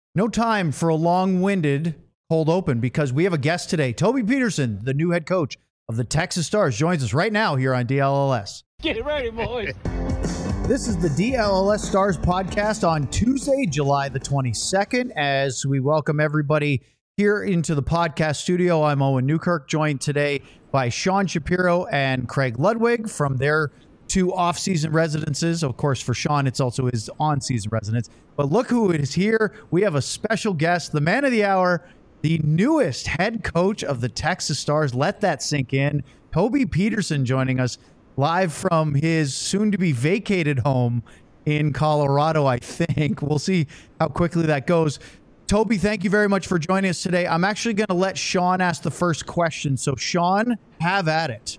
No time for a long-winded cold open because we have a guest today. Toby Peterson, the new head coach of the Texas Stars, joins us right now here on DLLS. Get ready, boys. This is the DLLS Stars podcast on Tuesday, July the 22nd. As we welcome everybody here into the podcast studio, I'm Owen Newkirk, joined today by Sean Shapiro and Craig Ludwig from their two off-season residences. Of course, for Sean, it's also his on-season residence. But look who is here. We have a special guest, the man of the hour, the newest head coach of the Texas Stars. Let that sink in. Toby Peterson joining us live from his soon-to-be vacated home in Colorado, I think. We'll see how quickly that goes. Toby, thank you very much for joining us today. I'm actually going to let Sean ask the first question. So, Sean, have at it.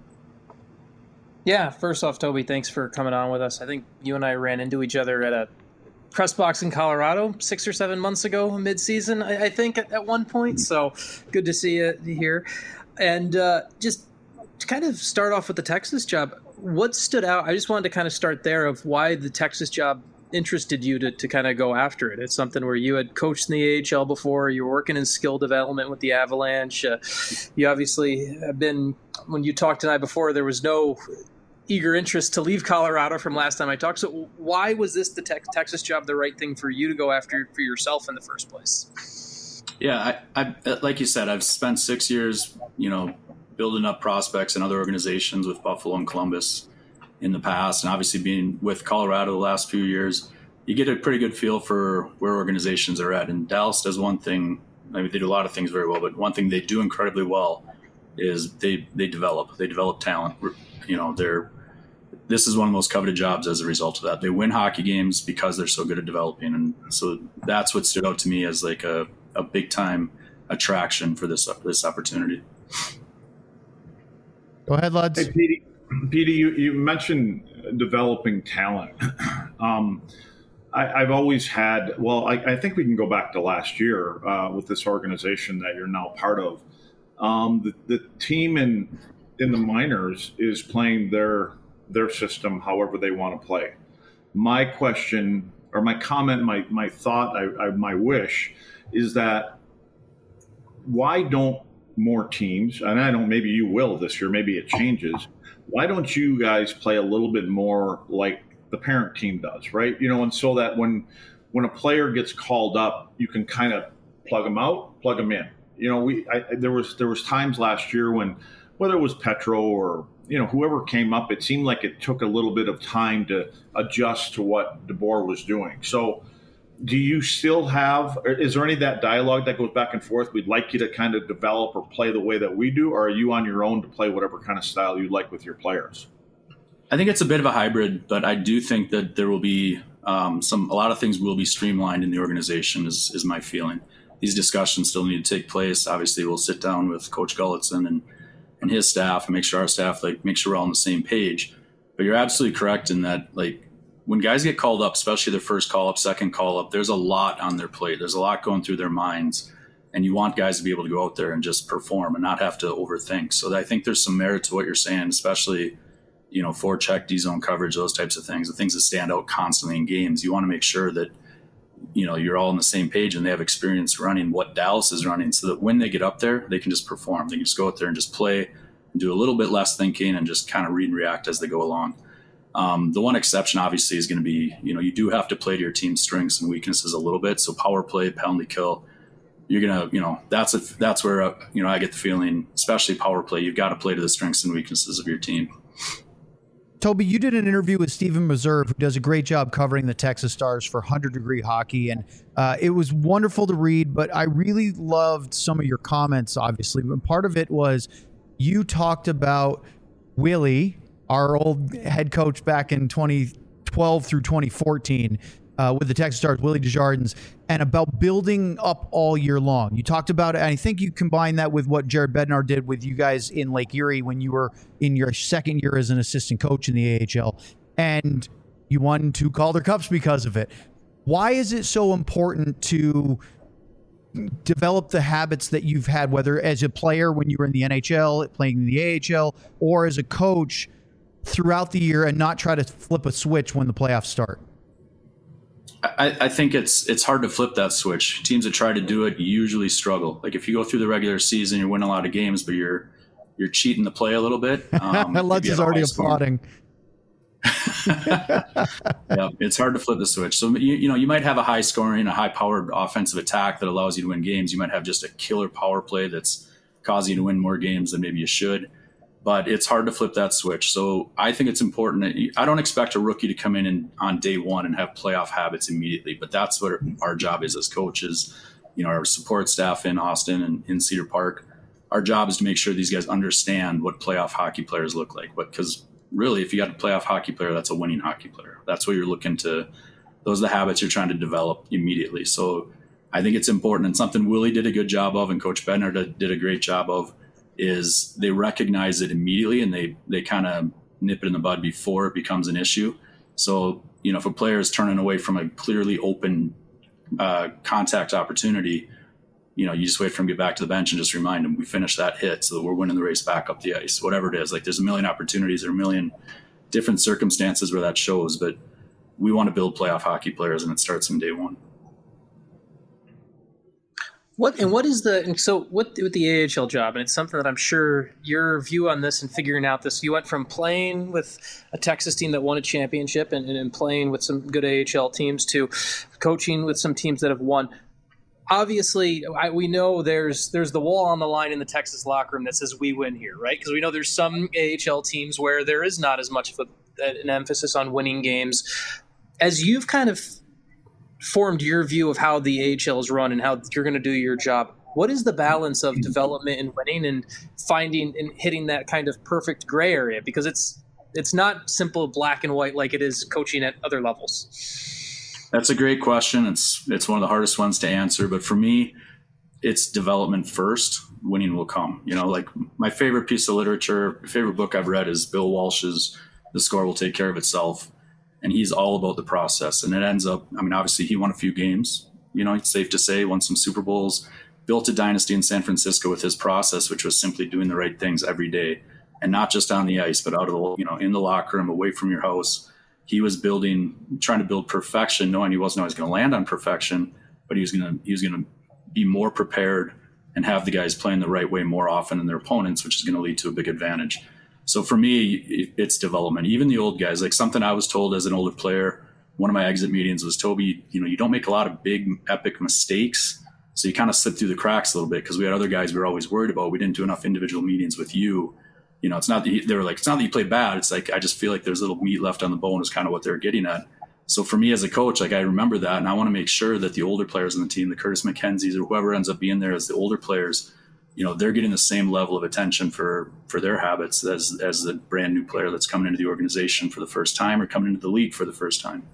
Yeah, first off, Toby, thanks for coming on with us. I think you and I ran into each other at a press box in Colorado 6 or 7 months ago, mid-season, I think, at one point. So good to see you here. And just to kind of start off with the Texas job, what stood out? I just wanted to kind of start there of why the Texas job interested you to kind of go after it. It's something where you had coached in the AHL before. You were working in skill development with the Avalanche. You obviously have been, when you talked tonight before, there was no eager interest to leave Colorado from last time I talked. So why was this the Texas job the right thing for you to go after for yourself in the first place? Yeah, I like you said, I've spent 6 years, building up prospects in other organizations with Buffalo and Columbus in the past. And obviously being with Colorado the last few years, you get a pretty good feel for where organizations are at. And Dallas does one thing, I mean, they do a lot of things very well, but one thing they do incredibly well is they develop talent. This is one of the most coveted jobs as a result of that. They win hockey games because they're so good at developing. And so that's what stood out to me as like a big time attraction for this opportunity. Go ahead, lads. Hey, Petey, you mentioned developing talent. I've always had, I think we can go back to last year with this organization that you're now part of. The team in the minors is playing their system however they want to play. My question or my comment, my thought, my wish is that why don't more teams, and I don't, maybe you will this year, maybe it changes, why don't you guys play a little bit more like the parent team does, right? And so that when a player gets called up, you can kind of plug them out, plug them in. There was times last year when, whether it was Petro or whoever came up, it seemed like it took a little bit of time to adjust to what DeBoer was doing. So do you still have, is there any of that dialogue that goes back and forth? We'd like you to kind of develop or play the way that we do, or are you on your own to play whatever kind of style you like with your players? I think it's a bit of a hybrid, but I do think that there will be a lot of things will be streamlined in the organization is my feeling. These discussions still need to take place. Obviously, we'll sit down with Coach Gulletson and his staff and make sure our staff make sure we're all on the same page. But you're absolutely correct in that, when guys get called up, especially their first call up, second call up, there's a lot on their plate. There's a lot going through their minds, and you want guys to be able to go out there and just perform and not have to overthink. So I think there's some merit to what you're saying, especially, forecheck, D-zone coverage, those types of things, the things that stand out constantly in games. You want to make sure that, you're all on the same page and they have experience running what Dallas is running so that when they get up there, they can just perform. They can just go out there and just play and do a little bit less thinking and just kind of read and react as they go along. The one exception obviously is going to be, you do have to play to your team's strengths and weaknesses a little bit. So power play, penalty kill, you're going to, that's where, I get the feeling, especially power play, you've got to play to the strengths and weaknesses of your team. Toby, you did an interview with Stephen Meserve, who does a great job covering the Texas Stars for 100 Degree Hockey, and it was wonderful to read, but I really loved some of your comments, obviously. And part of it was you talked about Willie, our old head coach back in 2012 through 2014 with the Texas Stars, Willie Desjardins, and about building up all year long. You talked about it, and I think you combined that with what Jared Bednar did with you guys in Lake Erie when you were in your second year as an assistant coach in the AHL, and you won 2 Calder Cups because of it. Why is it so important to develop the habits that you've had, whether as a player when you were in the NHL, playing in the AHL, or as a coach throughout the year, and not try to flip a switch when the playoffs start? I think it's hard to flip that switch. Teams that try to do it usually struggle. Like if you go through the regular season, you win a lot of games, but you're cheating the play a little bit. Lutz is already applauding. Yeah, it's hard to flip the switch. So you might have a high scoring, a high powered offensive attack that allows you to win games. You might have just a killer power play that's causing you to win more games than maybe you should. But it's hard to flip that switch. So I think it's important that I don't expect a rookie to come in on day one and have playoff habits immediately. But that's what our job is as coaches. Our support staff in Austin and in Cedar Park. Our job is to make sure these guys understand what playoff hockey players look like. Because really, if you got a playoff hockey player, that's a winning hockey player. That's what you're looking to. Those are the habits you're trying to develop immediately. So I think it's important, and something Willie did a good job of, and Coach Bednar did a great job of, is they recognize it immediately and they kind of nip it in the bud before it becomes an issue. So, if a player is turning away from a clearly open contact opportunity, you just wait for him to get back to the bench and just remind him we finished that hit so that we're winning the race back up the ice, whatever it is. Like there's a million opportunities, there are a million different circumstances where that shows, but we want to build playoff hockey players and it starts from day one. What with the AHL job, and it's something that I'm sure your view on this and figuring out this, you went from playing with a Texas team that won a championship and playing with some good AHL teams to coaching with some teams that have won. Obviously, we know there's the wall on the line in the Texas locker room that says we win here, right? Because we know there's some AHL teams where there is not as much of an emphasis on winning games. As you've kind of formed your view of how the AHL is run and how you're going to do your job, what is the balance of development and winning and finding and hitting that kind of perfect gray area? Because it's not simple black and white like it is coaching at other levels. That's a great question. It's one of the hardest ones to answer, but for me, it's development first. Winning will come. Like my favorite piece of literature, favorite book I've read is Bill Walsh's The Score Will Take Care of Itself. And he's all about the process. And it ends up, obviously he won a few games, it's safe to say, won some Super Bowls, built a dynasty in San Francisco with his process, which was simply doing the right things every day. And not just on the ice, but out of the, in the locker room, away from your house. He was trying to build perfection, knowing he wasn't always going to land on perfection, but he was going to be more prepared and have the guys playing the right way more often than their opponents, which is going to lead to a big advantage. So for me, it's development. Even the old guys, like something I was told as an older player, one of my exit meetings was, Toby, you don't make a lot of big epic mistakes. So you kind of slip through the cracks a little bit because we had other guys we were always worried about. We didn't do enough individual meetings with you. It's not that they were like, it's not that you played bad. It's like, I just feel like there's little meat left on the bone is kind of what they're getting at. So for me as a coach, like I remember that. And I want to make sure that the older players on the team, the Curtis McKenzies or whoever ends up being there as the older players, they're getting the same level of attention for their habits as the brand new player that's coming into the organization for the first time or coming into the league for the first time.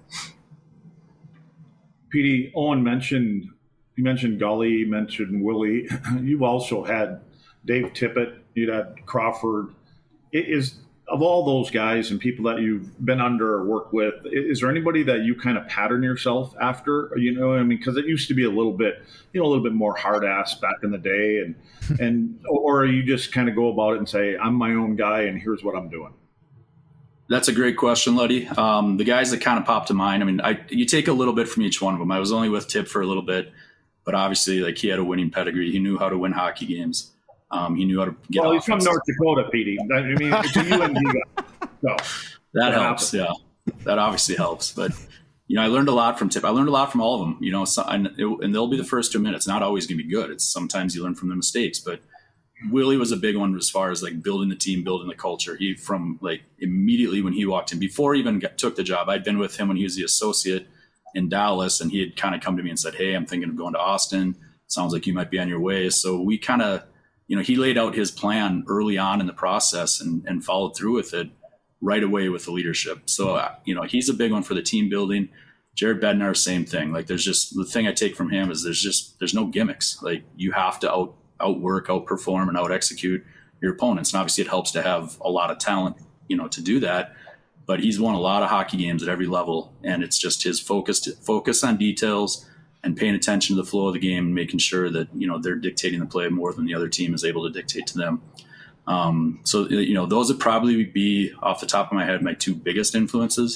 PD, Owen mentioned Gully, you mentioned Willie. You've also had Dave Tippett, you'd had Crawford. Is of all those guys and people that you've been under or worked with, is there anybody that you kind of pattern yourself after? Because it used to be a little bit more hard ass back in the day, or you just kind of go about it and say, I'm my own guy and here's what I'm doing. That's a great question, Luddy. The guys that kind of popped to mind, you take a little bit from each one of them. I was only with Tip for a little bit, but obviously, like he had a winning pedigree. He knew how to win hockey games. He knew how to get. Well, he's from North Dakota, PD. It's a UND guy. So that helps. Yeah, that obviously helps. But I learned a lot from Tip. I learned a lot from all of them. And they'll be the first to admit it's not always going to be good. It's sometimes you learn from the mistakes. But Willie was a big one as far as like building the team, building the culture. He from like immediately when he walked in, before he even took the job, I'd been with him when he was the associate in Dallas, and he had kind of come to me and said, "Hey, I'm thinking of going to Austin. Sounds like you might be on your way." So we kind of. He laid out his plan early on in the process and followed through with it right away with the leadership. So, he's a big one for the team building. Jared Bednar, same thing. Like there's just the thing I take from him is there's no gimmicks. Like you have to outwork, outperform, and out execute your opponents. And obviously it helps to have a lot of talent, to do that. But he's won a lot of hockey games at every level. And it's just his focus on details and paying attention to the flow of the game and making sure that, they're dictating the play more than the other team is able to dictate to them. So those would probably be off the top of my head, my two biggest influences.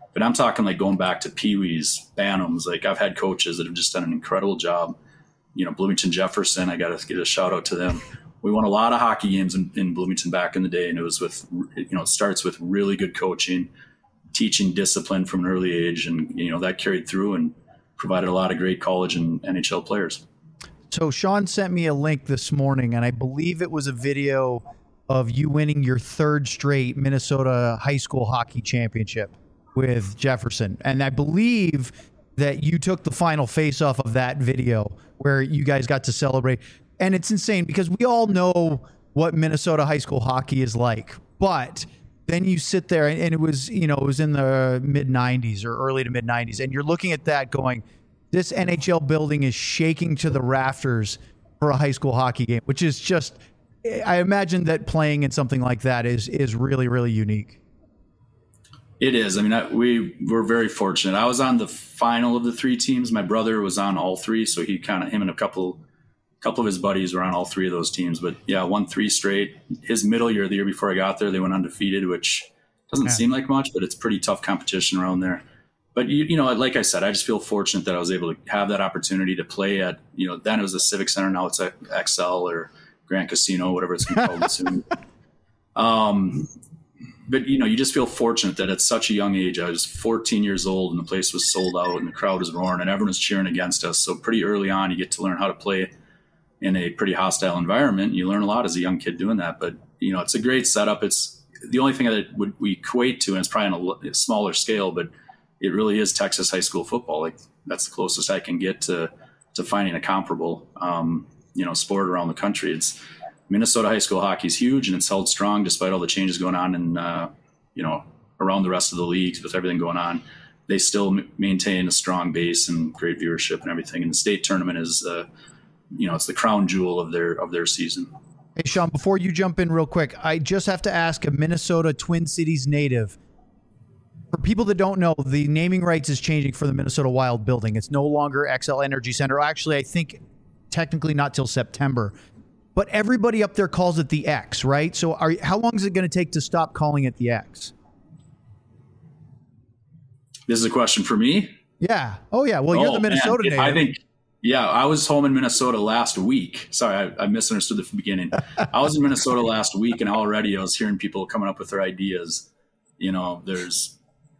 But I'm talking like going back to Pee-wees, Bantams. Like I've had coaches that have just done an incredible job. Bloomington Jefferson, I got to give a shout out to them. We won a lot of hockey games in Bloomington back in the day, and it was with, it starts with really good coaching, teaching discipline from an early age, and that carried through and provided a lot of great college and NHL players. So Sean sent me a link this morning, and I believe it was a video of you winning your third straight Minnesota high school hockey championship with Jefferson. And I believe that you took the final face-off of that video where you guys got to celebrate. And it's insane because we all know what Minnesota high school hockey is like. But then you sit there, and it was, it was in the mid-'90s or early to mid-'90s, and you're looking at that going, this NHL building is shaking to the rafters for a high school hockey game, which is just, I imagine that playing in something like that is really, really unique. It is. I mean, we were very fortunate. I was on the final of the three teams. My brother was on all three, so him and a couple of his buddies were on all three of those teams. But yeah, won 3 straight. His middle year, the year before I got there, they went undefeated, which doesn't seem like much, but it's pretty tough competition around there. But like I said, I just feel fortunate that I was able to have that opportunity to play at, then it was the Civic Center, now it's at XL or Grand Casino, whatever it's going to be called soon. But you just feel fortunate that at such a young age, I was 14 years old and the place was sold out and the crowd was roaring and everyone was cheering against us. So pretty early on, you get to learn how to play in a pretty hostile environment. You learn a lot as a young kid doing that. But it's a great setup. It's the only thing that we equate to, and it's probably on a smaller scale, but it really is Texas high school football. Like that's the closest I can get to finding a comparable, sport around the country. It's Minnesota high school hockey is huge, and it's held strong despite all the changes going on in, around the rest of the leagues with everything going on. They still maintain a strong base and great viewership and everything. And the state tournament is, it's the crown jewel of their season. Hey, Sean, before you jump in real quick, I just have to ask a Minnesota Twin Cities native. For people that don't know, the naming rights is changing for the Minnesota Wild building. It's no longer XL Energy Center. Actually, I think technically not till September. But everybody up there calls it the X, right? So how long is it going to take to stop calling it the X? This is a question for me? Yeah. Oh, yeah. Well, you're the Minnesota native. I think, I was home in Minnesota last week. Sorry, I misunderstood the beginning. I was in Minnesota last week, and already I was hearing people coming up with their ideas. There's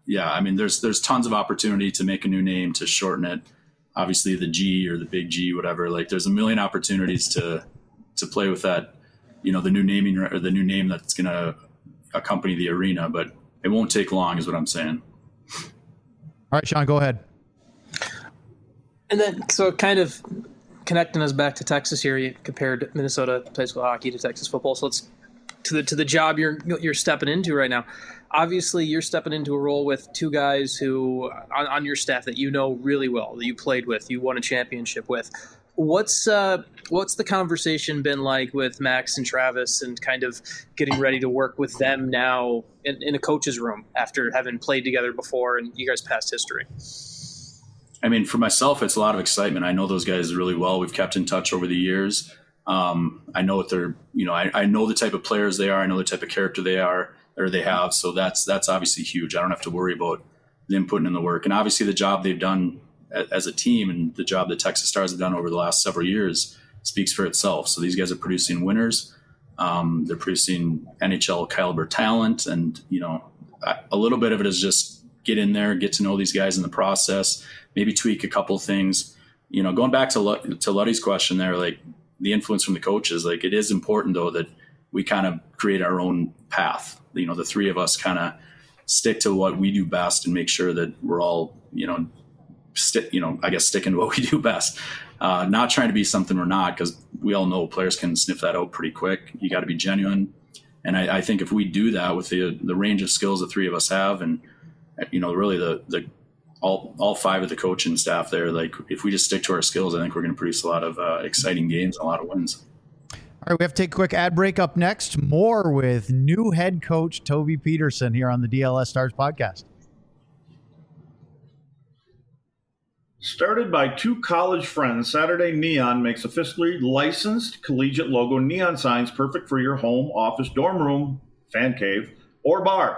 tons of opportunity to make a new name, to shorten it. Obviously, the G or the big G, whatever. Like, there's a million opportunities to play with that, the new naming or the new name that's going to accompany the arena, but it won't take long is what I'm saying. All right, Sean, go ahead. And then, so kind of connecting us back to Texas here, you compared Minnesota high school hockey to Texas football. So let's to the job you're stepping into right now. Obviously, you're stepping into a role with two guys who on your staff that you know really well, that you played with, you won a championship with. What's the conversation been like with Max and Travis, and kind of getting ready to work with them now in a coach's room after having played together before and you guys' past history? I mean, for myself, it's a lot of excitement. I know those guys really well. We've kept in touch over the years. I know what they're, I know the type of players they are. I know the type of character they are or they have. So that's obviously huge. I don't have to worry about them putting in the work. And obviously the job they've done as a team and the job that Texas Stars have done over the last several years speaks for itself. So these guys are producing winners. They're producing NHL caliber talent. And, a little bit of it is just get in there, get to know these guys in the process, maybe tweak a couple things. Going back to Luddy's question there, like the influence from the coaches, like it is important though that we kind of create our own path. The three of us kind of stick to what we do best and make sure that we're all, sticking to what we do best. Not trying to be something we're not, because we all know players can sniff that out pretty quick. You got to be genuine. And I think if we do that with the range of skills the three of us have, and, really the all five of the coaching staff there, like if we just stick to our skills, I think we're going to produce a lot of exciting games and a lot of wins. All right, we have to take a quick ad break. Up next, more with new head coach Toby Peterson here on the DLS Stars podcast. Started by two college friends, Saturday Neon makes officially licensed collegiate logo neon signs perfect for your home, office, dorm room, fan cave, or bar.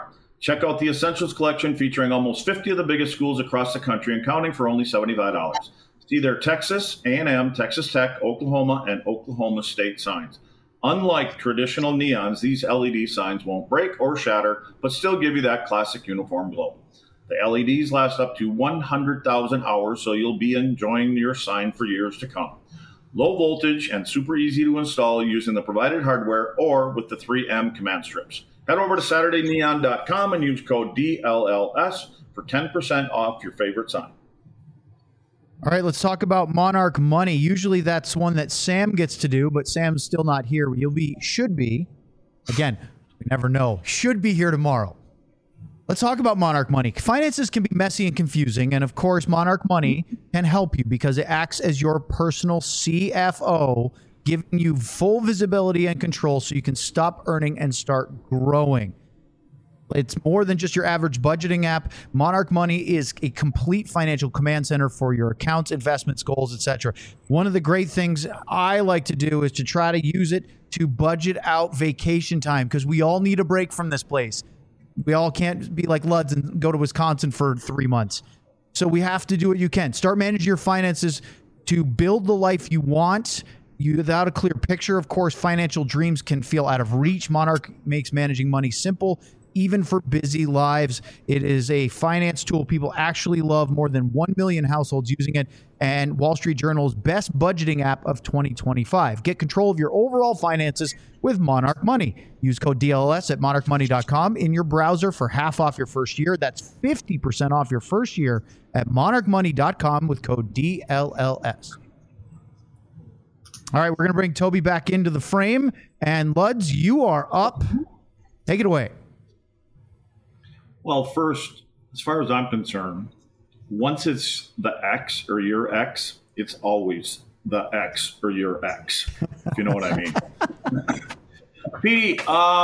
Check out the Essentials collection featuring almost 50 of the biggest schools across the country and counting for only $75. See their Texas A&M, Texas Tech, Oklahoma, and Oklahoma State signs. Unlike traditional neons, these LED signs won't break or shatter, but still give you that classic uniform glow. The LEDs last up to 100,000 hours, so you'll be enjoying your sign for years to come. Low voltage and super easy to install using the provided hardware or with the 3M command strips. Head over to SaturdayNeon.com and use code DLLS for 10% off your favorite sign. All right, let's talk about Monarch Money. Usually that's one that Sam gets to do, but Sam's still not here. Should be. Again, we never know. Should be here tomorrow. Let's talk about Monarch Money. Finances can be messy and confusing, and of course, Monarch Money can help you because it acts as your personal CFO, giving you full visibility and control so you can stop earning and start growing. It's more than just your average budgeting app. Monarch Money is a complete financial command center for your accounts, investments, goals, etc. One of the great things I like to do is to try to use it to budget out vacation time because we all need a break from this place. We all can't be like Luds and go to Wisconsin for 3 months. So we have to do what you can. Start managing your finances to build the life you want. Without a clear picture, of course, financial dreams can feel out of reach. Monarch makes managing money simple, even for busy lives. It is a finance tool people actually love. More than 1 million households using it, and Wall Street Journal's best budgeting app of 2025. Get control of your overall finances with Monarch Money. Use code DLS at monarchmoney.com in your browser for half off your first year. That's 50% off your first year at monarchmoney.com with code DLLS. All right, we're going to bring Toby back into the frame. And Luds, you are up. Take it away. Well, first, as far as I'm concerned, once it's the X or your X, it's always the X or your X, if you know what I mean. Petey,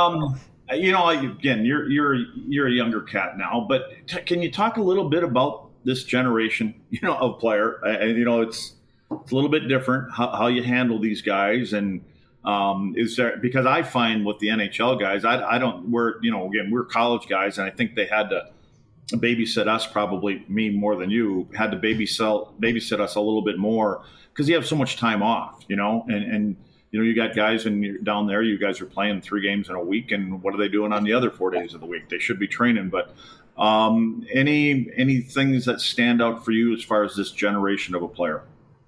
again, you're a younger cat now, but can you talk a little bit about this generation, of player? And it's a little bit different how you handle these guys, and is there, because I find with the NHL guys, we're college guys, and I think they had to babysit us, probably me more than you, had to babysit us a little bit more because you have so much time off, and you got guys down there, you guys are playing 3 games in a week, and what are they doing on the other 4 days of the week? They should be training, but any things that stand out for you as far as this generation of a player?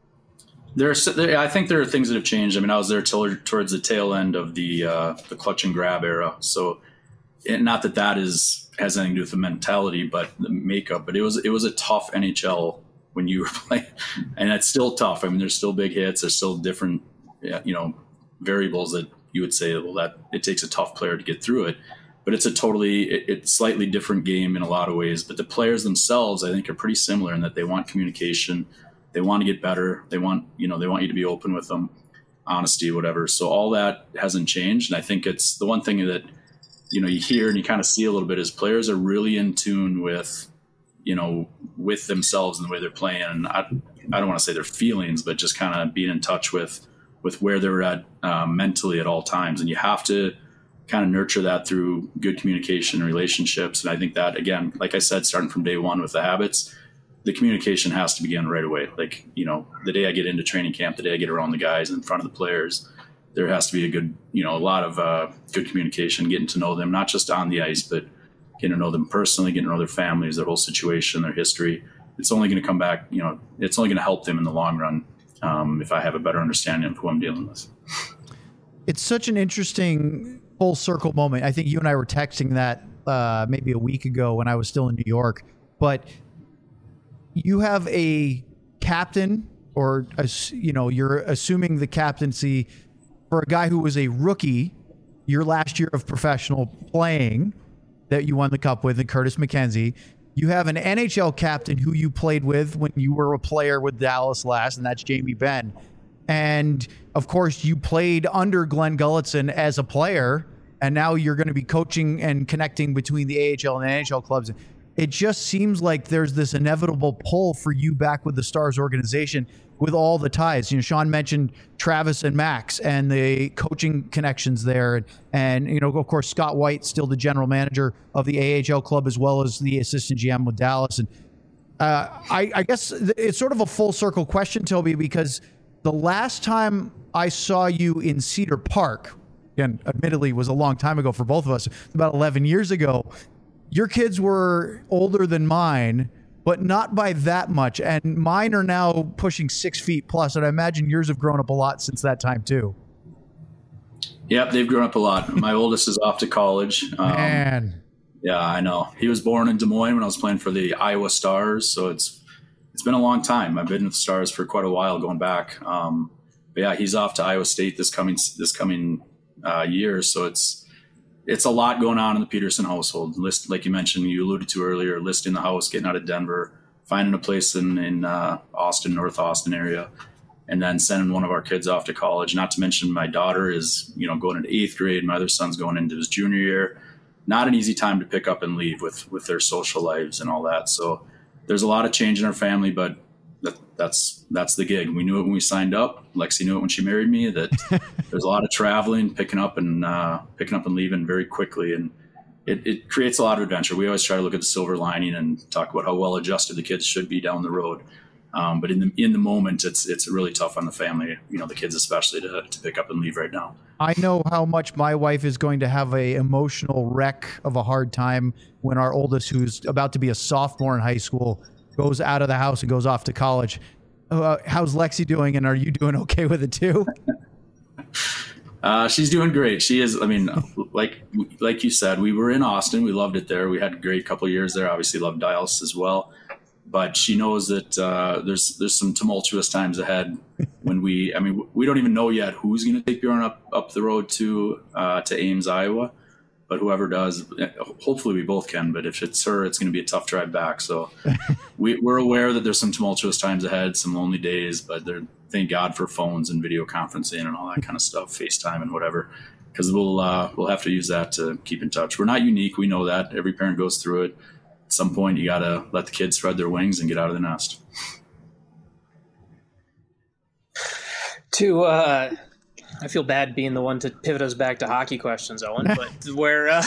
I think there are things that have changed. I mean, I was there towards the tail end of the clutch and grab era. So, not that has anything to do with the mentality, but the makeup. But it was a tough NHL when you were playing, and it's still tough. I mean, there's still big hits. There's still different, variables that you would say, well, that it takes a tough player to get through it. But it's it's slightly different game in a lot of ways. But the players themselves, I think, are pretty similar in that they want communication. They want to get better. They want you to be open with them, honesty, whatever. So all that hasn't changed. And I think it's the one thing that, you hear and you kind of see a little bit is players are really in tune with, with themselves and the way they're playing. And I don't want to say their feelings, but just kind of being in touch with where they're at mentally at all times. And you have to kind of nurture that through good communication and relationships. And I think that, again, like I said, starting from day one with the habits, the communication has to begin right away. Like, the day I get into training camp, the day I get around the guys in front of the players, there has to be a lot of good communication, getting to know them, not just on the ice, but getting to know them personally, getting to know their families, their whole situation, their history. It's only going to come back, it's only going to help them in the long run if I have a better understanding of who I'm dealing with. It's such an interesting full circle moment. I think you and I were texting that maybe a week ago when I was still in New York, but you have a captain, or you're assuming the captaincy for a guy who was a rookie your last year of professional playing that you won the cup with, and Curtis McKenzie. You have an NHL captain who you played with when you were a player with Dallas last, and that's Jamie Benn. And of course, you played under Glenn Gulutzan as a player, and now you're going to be coaching and connecting between the AHL and the NHL clubs. it just seems like there's this inevitable pull for you back with the Stars organization with all the ties. Sean mentioned Travis and Max and the coaching connections there. And of course, Scott White, still the general manager of the AHL club, as well as the assistant GM with Dallas. And I guess it's sort of a full circle question, Toby, because the last time I saw you in Cedar Park, again, admittedly was a long time ago for both of us, about 11 years ago, your kids were older than mine, but not by that much. And mine are now pushing 6 feet plus. And I imagine yours have grown up a lot since that time too. Yep, they've grown up a lot. My oldest is off to college. Man. Yeah, I know. He was born in Des Moines when I was playing for the Iowa Stars. So it's been a long time. I've been with the Stars for quite a while going back. But yeah, he's off to Iowa State this coming year. So it's a lot going on in the Peterson household. Like you mentioned, you alluded to earlier, listing the house, getting out of Denver, finding a place in Austin, North Austin area, and then sending one of our kids off to college. Not to mention my daughter is, going into 8th grade. My other son's going into his junior year. Not an easy time to pick up and leave with their social lives and all that. So there's a lot of change in our family, but that's the gig. We knew it when we signed up. Lexi knew it when she married me, that there's a lot of traveling, picking up and leaving very quickly. And it creates a lot of adventure. We always try to look at the silver lining and talk about how well adjusted the kids should be down the road. But in the moment, it's really tough on the family, the kids especially, to pick up and leave right now. I know how much my wife is going to have a emotional wreck of a hard time when our oldest, who's about to be a sophomore in high school, goes out of the house and goes off to college. How's Lexi doing, and are you doing okay with it too? She's doing great. She is. I mean, like you said, we were in Austin. We loved it there. We had a great couple of years there. Obviously loved Dallas as well. But she knows that there's some tumultuous times ahead when we don't even know yet who's going to take Bjorn up the road to Ames, Iowa. But whoever does, hopefully we both can. But if it's her, it's going to be a tough drive back. So we're aware that there's some tumultuous times ahead, some lonely days. But thank God for phones and video conferencing and all that kind of stuff, FaceTime and whatever, because we'll have to use that to keep in touch. We're not unique. We know that. Every parent goes through it. At some point, you got to let the kids spread their wings and get out of the nest. I feel bad being the one to pivot us back to hockey questions, Owen, but where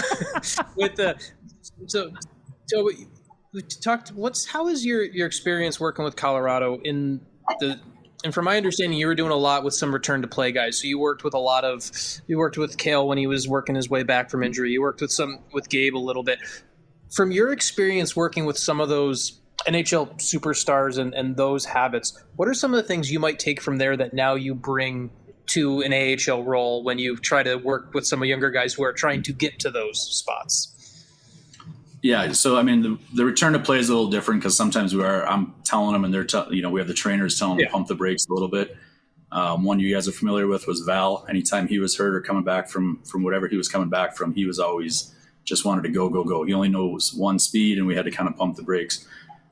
we talked. How is your experience working with Colorado and from my understanding, you were doing a lot with some return to play guys. So you worked with Cale when he was working his way back from injury. You worked with Gabe a little bit. From your experience working with some of those NHL superstars and those habits, what are some of the things you might take from there that now you bring to an AHL role when you try to work with some of younger guys who are trying to get to those spots? Yeah, so I mean, the return to play is a little different because sometimes I'm telling them, and they're we have the trainers telling them to pump the brakes a little bit. One you guys are familiar with was Val. Anytime he was hurt or coming back from whatever he was coming back from, he was always just wanted to go. He only knows one speed, and we had to kind of pump the brakes.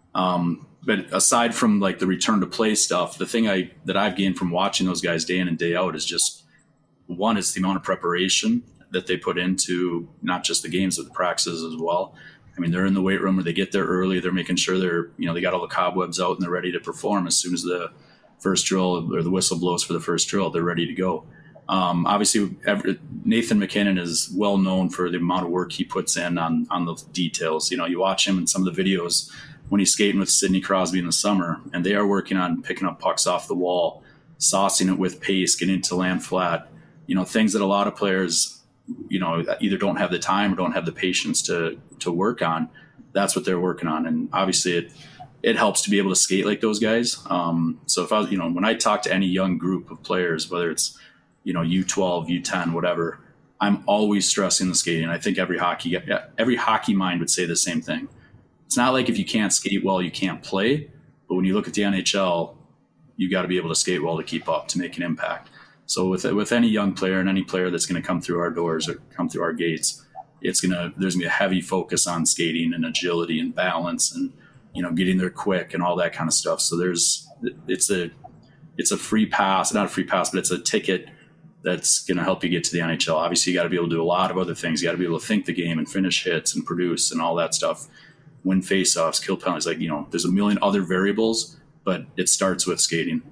But aside from like the return to play stuff, the thing that I've gained from watching those guys day in and day out is just, one, it's the amount of preparation that they put into not just the games, but the practices as well. I mean, they're in the weight room or they get there early. They're making sure they got all the cobwebs out and they're ready to perform as soon as the first drill or the whistle blows for the first drill. They're ready to go. Obviously, Nathan MacKinnon is well known for the amount of work he puts in on the details. You watch him in some of the videos when he's skating with Sidney Crosby in the summer, and they are working on picking up pucks off the wall, saucing it with pace, getting it to land flat. Things that a lot of players, either don't have the time or don't have the patience to work on. That's what they're working on, and obviously it helps to be able to skate like those guys. So if I was, when I talk to any young group of players, whether it's U12, U10, whatever, I'm always stressing the skating. I think every hockey mind would say the same thing. It's not like if you can't skate well, you can't play. But when you look at the NHL, you got to be able to skate well to keep up, to make an impact. So with any young player and any player that's going to come through our doors or come through our gates, there's going to be a heavy focus on skating and agility and balance and, getting there quick and all that kind of stuff. So it's a free pass, not a free pass, but it's a ticket that's going to help you get to the NHL. Obviously, you got to be able to do a lot of other things. You got to be able to think the game and finish hits and produce and all that stuff. win faceoffs, kill penalties. Like, there's a million other variables, but it starts with skating.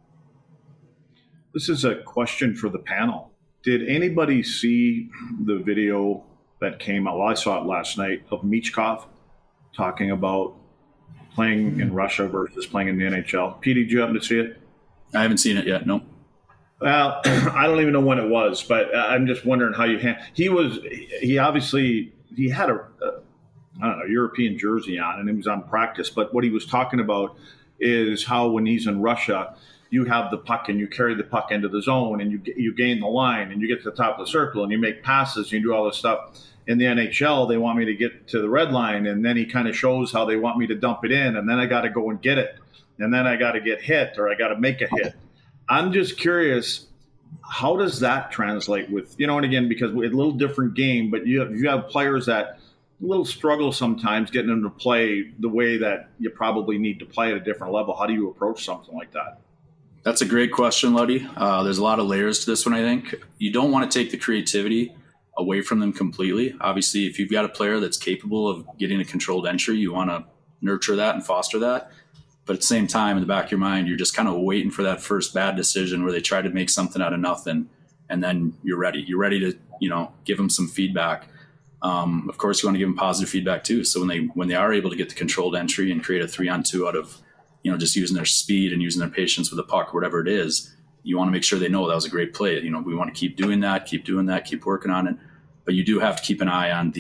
This is a question for the panel. Did anybody see the video that came out? Well, I saw it last night of Michkov talking about playing in Russia versus playing in the NHL. Pete, did you happen to see it? I haven't seen it yet. No. Well, I don't even know when it was, but I'm just wondering how you he obviously had a European jersey on, and he was on practice. But what he was talking about is how when he's in Russia, you have the puck and you carry the puck into the zone and you gain the line and you get to the top of the circle and you make passes and you do all this stuff. In the NHL, they want me to get to the red line, and then he kind of shows how they want me to dump it in, and then I got to go and get it, and then I got to get hit or I got to make a hit. I'm just curious, how does that translate with, and again, because it's a little different game, but you have players that a little struggle sometimes getting them to play the way that you probably need to play at a different level. How do you approach something like that? That's a great question, Luddy. There's a lot of layers to this one, I think. You don't want to take the creativity away from them completely. Obviously, if you've got a player that's capable of getting a controlled entry, you want to nurture that and foster that. But at the same time, in the back of your mind, you're just kind of waiting for that first bad decision where they try to make something out of nothing, and then you're ready. You're ready to, give them some feedback. Of course, you want to give them positive feedback too. So when they are able to get the controlled entry and create a 3-on-2 out of, just using their speed and using their patience with the puck, whatever it is, you want to make sure they know that was a great play. We want to keep doing that, keep working on it. But you do have to keep an eye on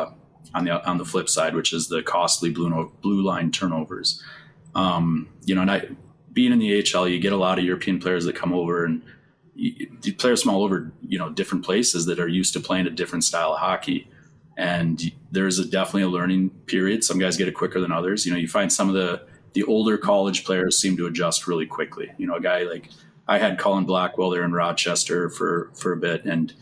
the flip side, which is the costly blue line turnovers. And being in the AHL, you get a lot of European players that come over, and players from all over, different places that are used to playing a different style of hockey. And there's definitely a learning period. Some guys get it quicker than others. You find some of the older college players seem to adjust really quickly. A guy like I had Colin Blackwell there in Rochester for a bit, and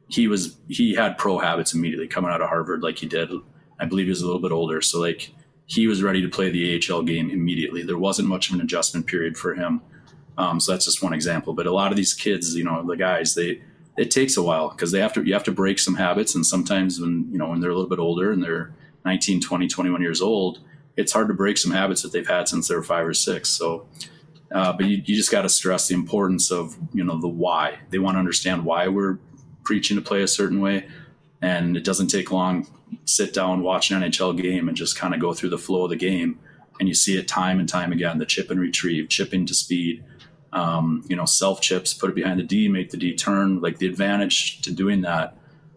he had pro habits immediately coming out of Harvard like he did. I believe he was a little bit older. So he was ready to play the AHL game immediately. There wasn't much of an adjustment period for him. So that's just one example. But a lot of these kids, the guys, it takes a while because you have to break some habits. And sometimes when they're a little bit older and they're 19, 20, 21 years old, it's hard to break some habits that they've had since they were 5 or 6. So, but you just got to stress the importance of, the why. They want to understand why we're preaching to play a certain way. And it doesn't take long. Sit down, watch an NHL game, and just kind of go through the flow of the game. And you see it time and time again, the chip and retrieve, chipping to speed, self chips, put it behind the D, make the D turn. Like the advantage to doing that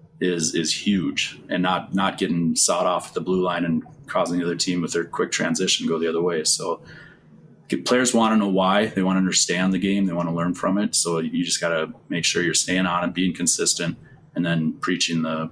is huge, and not getting sawed off at the blue line and causing the other team with their quick transition go the other way. So players want to know why. They want to understand the game. They want to learn from it. So you just got to make sure you're staying on it, being consistent, and then preaching the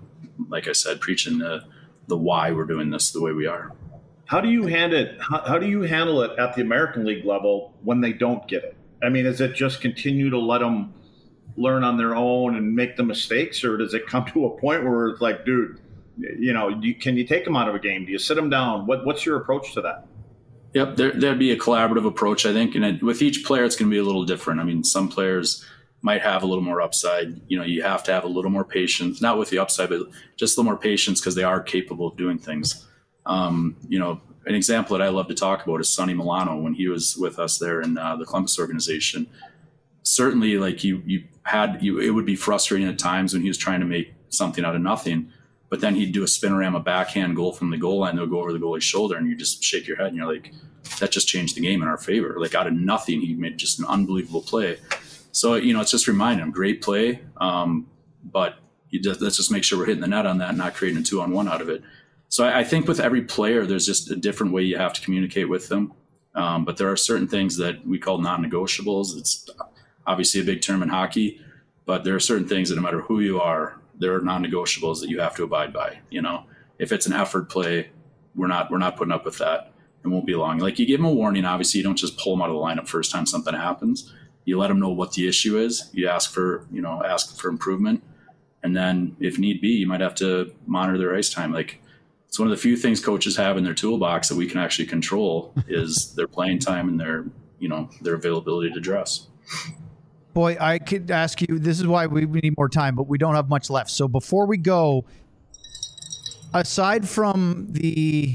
why we're doing this the way we are. How do you handle it? How do you handle it at the American League level when they don't get it? I mean, is it just continue to let them learn on their own and make the mistakes, or does it come to a point where it's like, dude, can you take them out of a game? Do you sit them down? What's your approach to that? Yep, there'd be a collaborative approach, I think, and with each player, it's going to be a little different. I mean, some players might have a little more upside. You have to have a little more patience, not with the upside, but just a little more patience because they are capable of doing things. An example that I love to talk about is Sonny Milano when he was with us there in the Columbus organization. Certainly, it would be frustrating at times when he was trying to make something out of nothing, but then he'd do a spinorama backhand goal from the goal line. They'll go over the goalie's shoulder, and you just shake your head, and you're like, that just changed the game in our favor. Like out of nothing, he made just an unbelievable play. So, it's just reminding him, great play, but let's just make sure we're hitting the net on that and not creating a 2-on-1 out of it. So I think with every player, there's just a different way you have to communicate with them. But there are certain things that we call non-negotiables. It's obviously a big term in hockey, but there are certain things that no matter who you are, there are non-negotiables that you have to abide by. If it's an effort play, we're not putting up with that. It won't be long. Like you give them a warning. Obviously, you don't just pull them out of the lineup first time something happens. You let them know what the issue is. You ask for improvement. And then if need be, you might have to monitor their ice time. Like it's one of the few things coaches have in their toolbox that we can actually control is their playing time and their availability to dress. Boy, I could ask you, this is why we need more time, but we don't have much left. So before we go, aside from the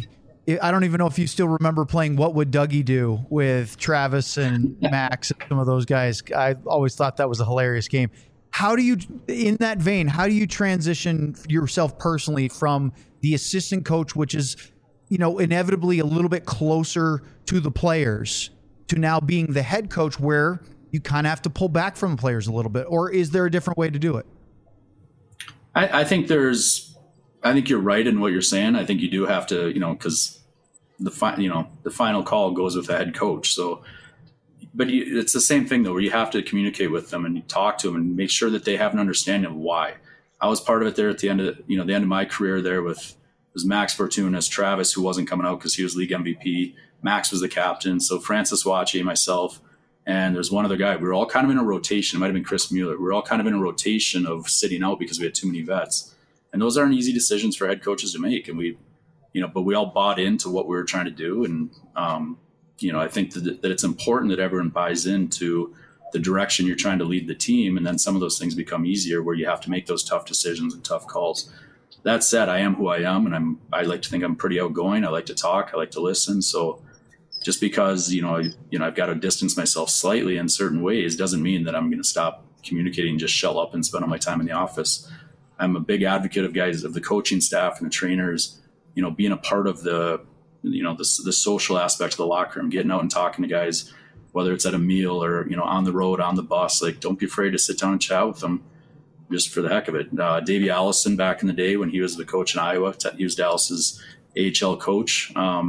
I don't even know if you still remember playing What Would Dougie Do with Travis and Max and some of those guys. I always thought that was a hilarious game. How do you, in that vein, how do you transition yourself personally from the assistant coach, which is, inevitably a little bit closer to the players, to now being the head coach where you kind of have to pull back from the players a little bit? Or is there a different way to do it? I think you're right in what you're saying. I think you do have to, because the final call goes with the head coach. So, but it's the same thing though, where you have to communicate with them and you talk to them and make sure that they have an understanding of why. I was part of it there at the end of the end of my career there with was Max Fortunas, Travis, who wasn't coming out because he was league MVP. Max was the captain. So Francis Wache, myself, and there's one other guy. We were all kind of in a rotation. It might have been Chris Mueller. We were all kind of in a rotation of sitting out because we had too many vets. And those aren't easy decisions for head coaches to make. And but we all bought into what we were trying to do. And, I think that it's important that everyone buys into the direction you're trying to lead the team. And then some of those things become easier where you have to make those tough decisions and tough calls. That said, I am who I am, and I like to think I'm pretty outgoing. I like to talk. I like to listen. So just because, I've got to distance myself slightly in certain ways doesn't mean that I'm going to stop communicating, just shell up and spend all my time in the office. I'm a big advocate of the coaching staff and the trainers, being a part of the social aspect of the locker room, getting out and talking to guys, whether it's at a meal or, on the road, on the bus. Like, don't be afraid to sit down and chat with them just for the heck of it. Davey Allison, back in the day when he was the coach in Iowa, he was Dallas's AHL coach.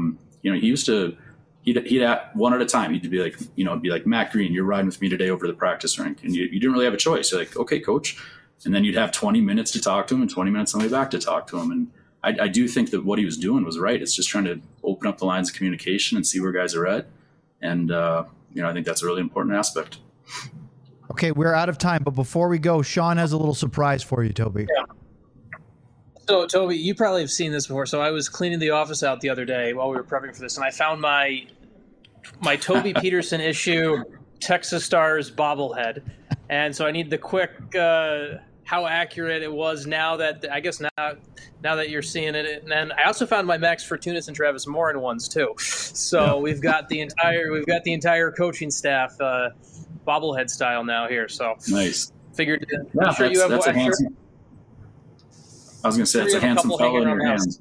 He'd at one at a time. He'd be like, Matt Green, you're riding with me today over to the practice rink. And you didn't really have a choice. You're like, okay, coach. And then you'd have 20 minutes to talk to him and 20 minutes on the way back to talk to him. And I do think that what he was doing was right. It's just trying to open up the lines of communication and see where guys are at. And, I think that's a really important aspect. Okay, we're out of time. But before we go, Sean has a little surprise for you, Toby. Yeah. So, Toby, you probably have seen this before. So I was cleaning the office out the other day while we were prepping for this, and I found my Toby Peterson issue Texas Stars bobblehead. And so I need the quick how accurate it was now that you're seeing it. And then I also found my Max Fortunas and Travis Morin ones too. So we've got the entire coaching staff bobblehead style now here. So nice. Figured I'm sure you have that's a handsome. I was going to say, it's a handsome fellow in your hands.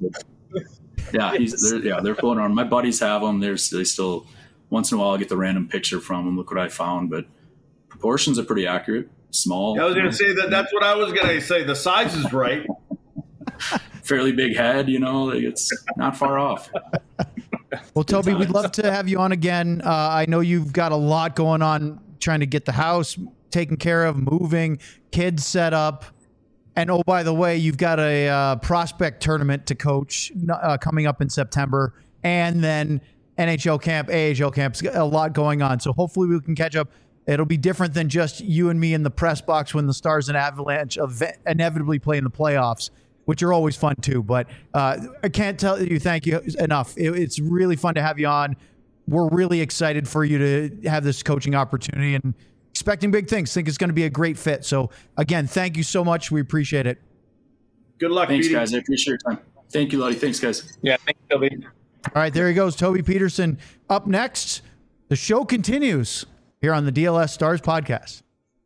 They're floating around. My buddies have them. They still, once in a while, I get the random picture from them. Look what I found. But proportions are pretty accurate. Small. I was going to say that's what I was going to say. The size is right. Fairly big head, it's not far off. Well, Toby, we'd love to have you on again. I know you've got a lot going on, trying to get the house taken care of, moving, kids set up. And, oh, by the way, you've got a prospect tournament to coach coming up in September, and then NHL camp, AHL camp, a lot going on. So hopefully we can catch up. It'll be different than just you and me in the press box when the Stars and Avalanche inevitably play in the playoffs, which are always fun too. But I can't tell you thank you enough. It's really fun to have you on. We're really excited for you to have this coaching opportunity and expecting big things. Think it's going to be a great fit. So again, thank you so much. We appreciate it. Good luck. Thanks, Petey. guys. I appreciate your time. Thank you, Lottie. Thanks, guys. Yeah, thanks, Toby. All right, there he goes, Toby Peterson. Up next, the show continues here on the DLS Stars podcast.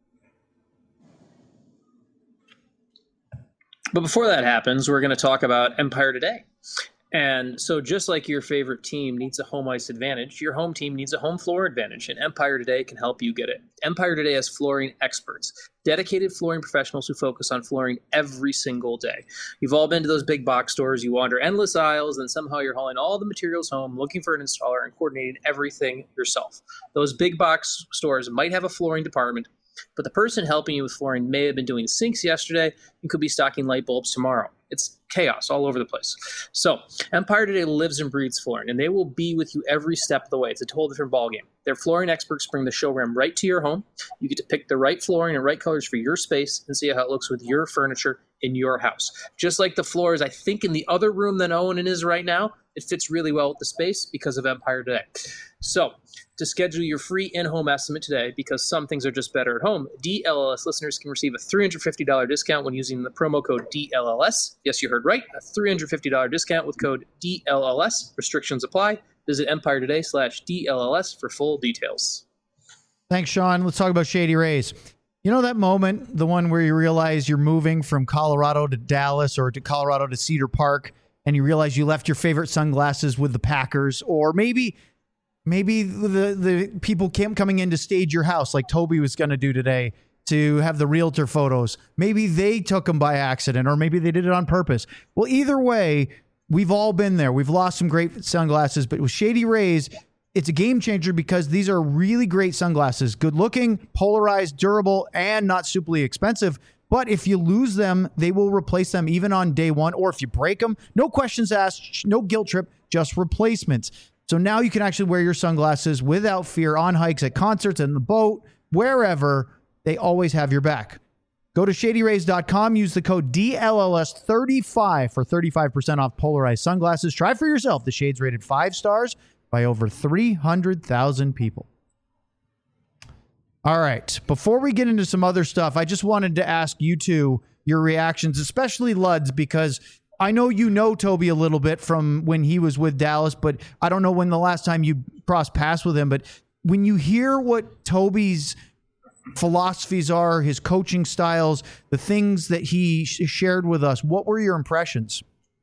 But before that happens, we're going to talk about Empire Today. And so just like your favorite team needs a home ice advantage, your home team needs a home floor advantage, and Empire Today can help you get it. Empire Today has flooring experts, dedicated flooring professionals who focus on flooring every single day. You've all been to those big box stores. You wander endless aisles, and somehow you're hauling all the materials home, looking for an installer, and coordinating everything yourself. Those big box stores might have a flooring department, but the person helping you with flooring may have been doing sinks yesterday and could be stocking light bulbs tomorrow. It's chaos all over the place. So Empire Today lives and breathes flooring, and they will be with you every step of the way. It's a total different ballgame. Their flooring experts bring the showroom right to your home. You get to pick the right flooring and right colors for your space and see how it looks with your furniture in your house. Just like the floors, I think, in the other room than Owen is right now, it fits really well with the space because of Empire Today. So, to schedule your free in-home estimate today, because some things are just better at home, DLLS listeners can receive a $350 discount when using the promo code DLLS. Yes, you heard right, a $350 discount with code DLLS. Restrictions apply. Visit EmpireToday/DLLS for full details. Thanks, Sean. Let's talk about Shady Rays. You know that moment, the one where you realize you're moving from Colorado to Dallas or to Colorado to Cedar Park, and you realize you left your favorite sunglasses with the Packers, or maybe the people coming in to stage your house like Toby was going to do today to have the realtor photos. Maybe they took them by accident, or maybe they did it on purpose. Well, either way, we've all been there. We've lost some great sunglasses, but with Shady Rays, it's a game changer because these are really great sunglasses. Good looking, polarized, durable, and not superly expensive. But if you lose them, they will replace them even on day one. Or if you break them, no questions asked, no guilt trip, just replacements. So now you can actually wear your sunglasses without fear on hikes, at concerts, in the boat, wherever. They always have your back. Go to ShadyRays.com. Use the code DLLS35 for 35% off polarized sunglasses. Try for yourself. The shades rated 5 stars by over 300,000 people. All right. Before we get into some other stuff, I just wanted to ask you two your reactions, especially Luds, because I know you know Toby a little bit from when he was with Dallas, but I don't know when the last time you crossed paths with him. But when you hear what Toby's philosophies are, his coaching styles, the things that he shared with us, what were your impressions?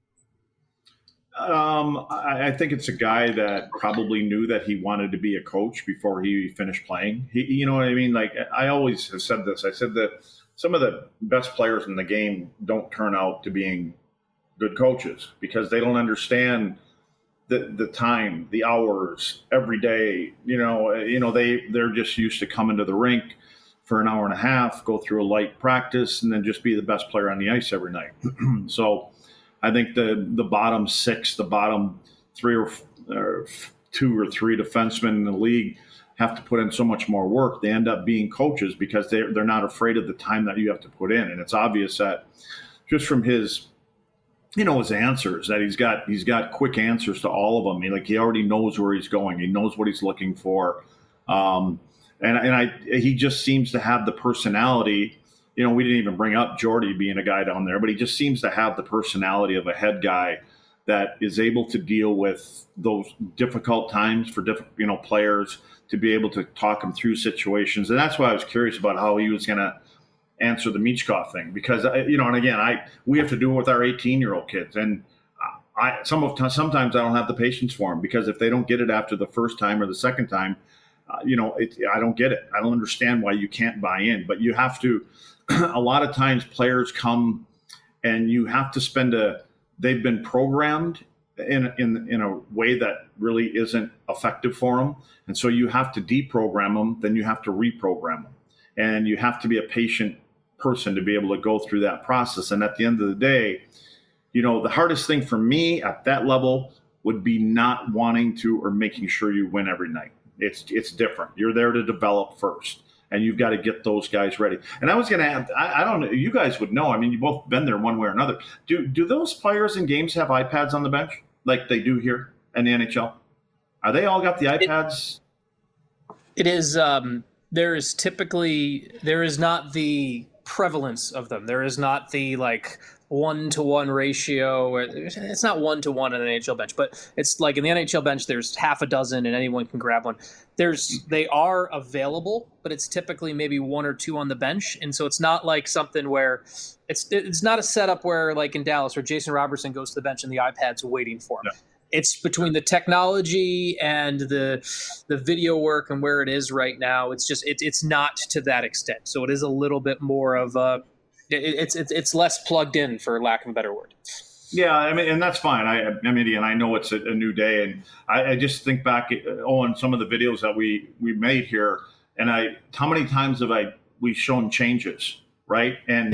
I think it's a guy that probably knew that he wanted to be a coach before he finished playing. You know what I mean? Like, I always have said this. I said that some of the best players in the game don't turn out to being good coaches because they don't understand the time, the hours, every day. They're just used to coming to the rink for an hour and a half, go through a light practice, and then just be the best player on the ice every night. So I think the bottom six, the bottom three or two or three defensemen in the league have to put in so much more work. They end up being coaches because they're not afraid of the time that you have to put in. And it's obvious that just from his answers, that he's got quick answers to all of them. He already knows where he's going. He knows what he's looking for. He just seems to have the personality. We didn't even bring up Jordy being a guy down there, but he just seems to have the personality of a head guy that is able to deal with those difficult times for different, players, to be able to talk them through situations. And that's why I was curious about how he was going to answer the Michkov thing, because, we have to do it with our 18-year-old kids. And sometimes I don't have the patience for them, because if they don't get it after the first time or the second time, I don't get it. I don't understand why you can't buy in, but you have to. A lot of times players come and you have to they've been programmed in a way that really isn't effective for them. And so you have to deprogram them, then you have to reprogram them. And you have to be a patient person to be able to go through that process. And at the end of the day, the hardest thing for me at that level would be not wanting to or making sure you win every night. It's different. You're there to develop first, and you've got to get those guys ready. And I was going to add, I don't know, you guys would know. You've both been there one way or another. Do those players in games have iPads on the bench like they do here in the NHL? Are they all got the iPads? It is. There is not the prevalence of them. There is not the 1-to-1 ratio. It's not 1-to-1 in an NHL bench, but it's like in the NHL bench, there's half a dozen and anyone can grab one. They are available, but it's typically maybe 1 or 2 on the bench. And so it's not like something where it's not a setup where, like in Dallas, where Jason Robertson goes to the bench and the iPad's waiting for him. No. It's between the technology and the video work and where it is right now. It's just it's not to that extent. So it is a little bit more of it's less plugged in, for lack of a better word. Yeah, and that's fine. And I know it's a new day, and I just think back on some of the videos that we made here, and how many times have we shown changes, right? And yep.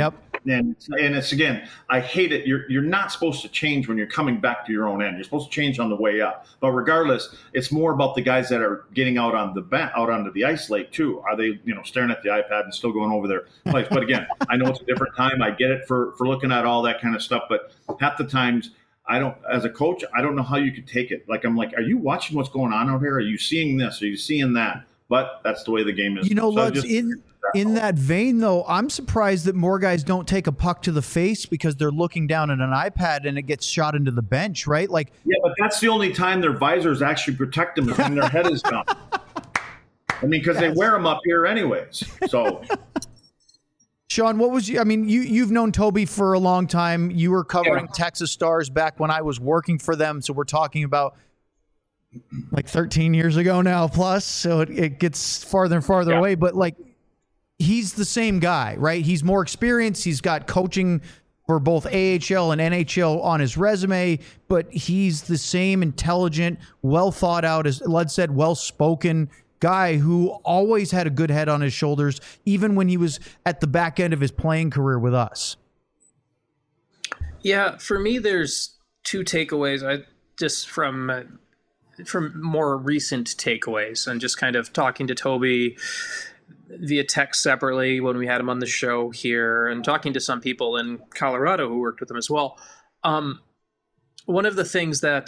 and it's again, I hate it. You're not supposed to change when you're coming back to your own end. You're supposed to change on the way up. But regardless, it's more about the guys that are getting out on out onto the ice lake too. Are they staring at the iPad and still going over their place? But again, I know it's a different time. I get it for looking at all that kind of stuff. But half the times, as a coach, I don't know how you could take it. Like, I'm like, are you watching what's going on out here? Are you seeing this? Are you seeing that? But that's the way the game is. Lutz, in that vein, though, I'm surprised that more guys don't take a puck to the face because they're looking down at an iPad and it gets shot into the bench, right? Like, yeah, but that's the only time their visors actually protect them is when their head is down. I mean, because they wear them up here anyways. So, Sean, you've known Toby for a long time. You were covering Texas Stars back when I was working for them. So we're talking about like 13 years ago now plus. So it gets farther and farther away. But like, he's the same guy, right? He's more experienced. He's got coaching for both AHL and NHL on his resume, but he's the same intelligent, well thought out, as Lud said, well-spoken guy who always had a good head on his shoulders, even when he was at the back end of his playing career with us. Yeah, for me, there's two takeaways. Just from more recent takeaways, and just kind of talking to Toby via text separately when we had him on the show here, and talking to some people in Colorado who worked with him as well. One of the things that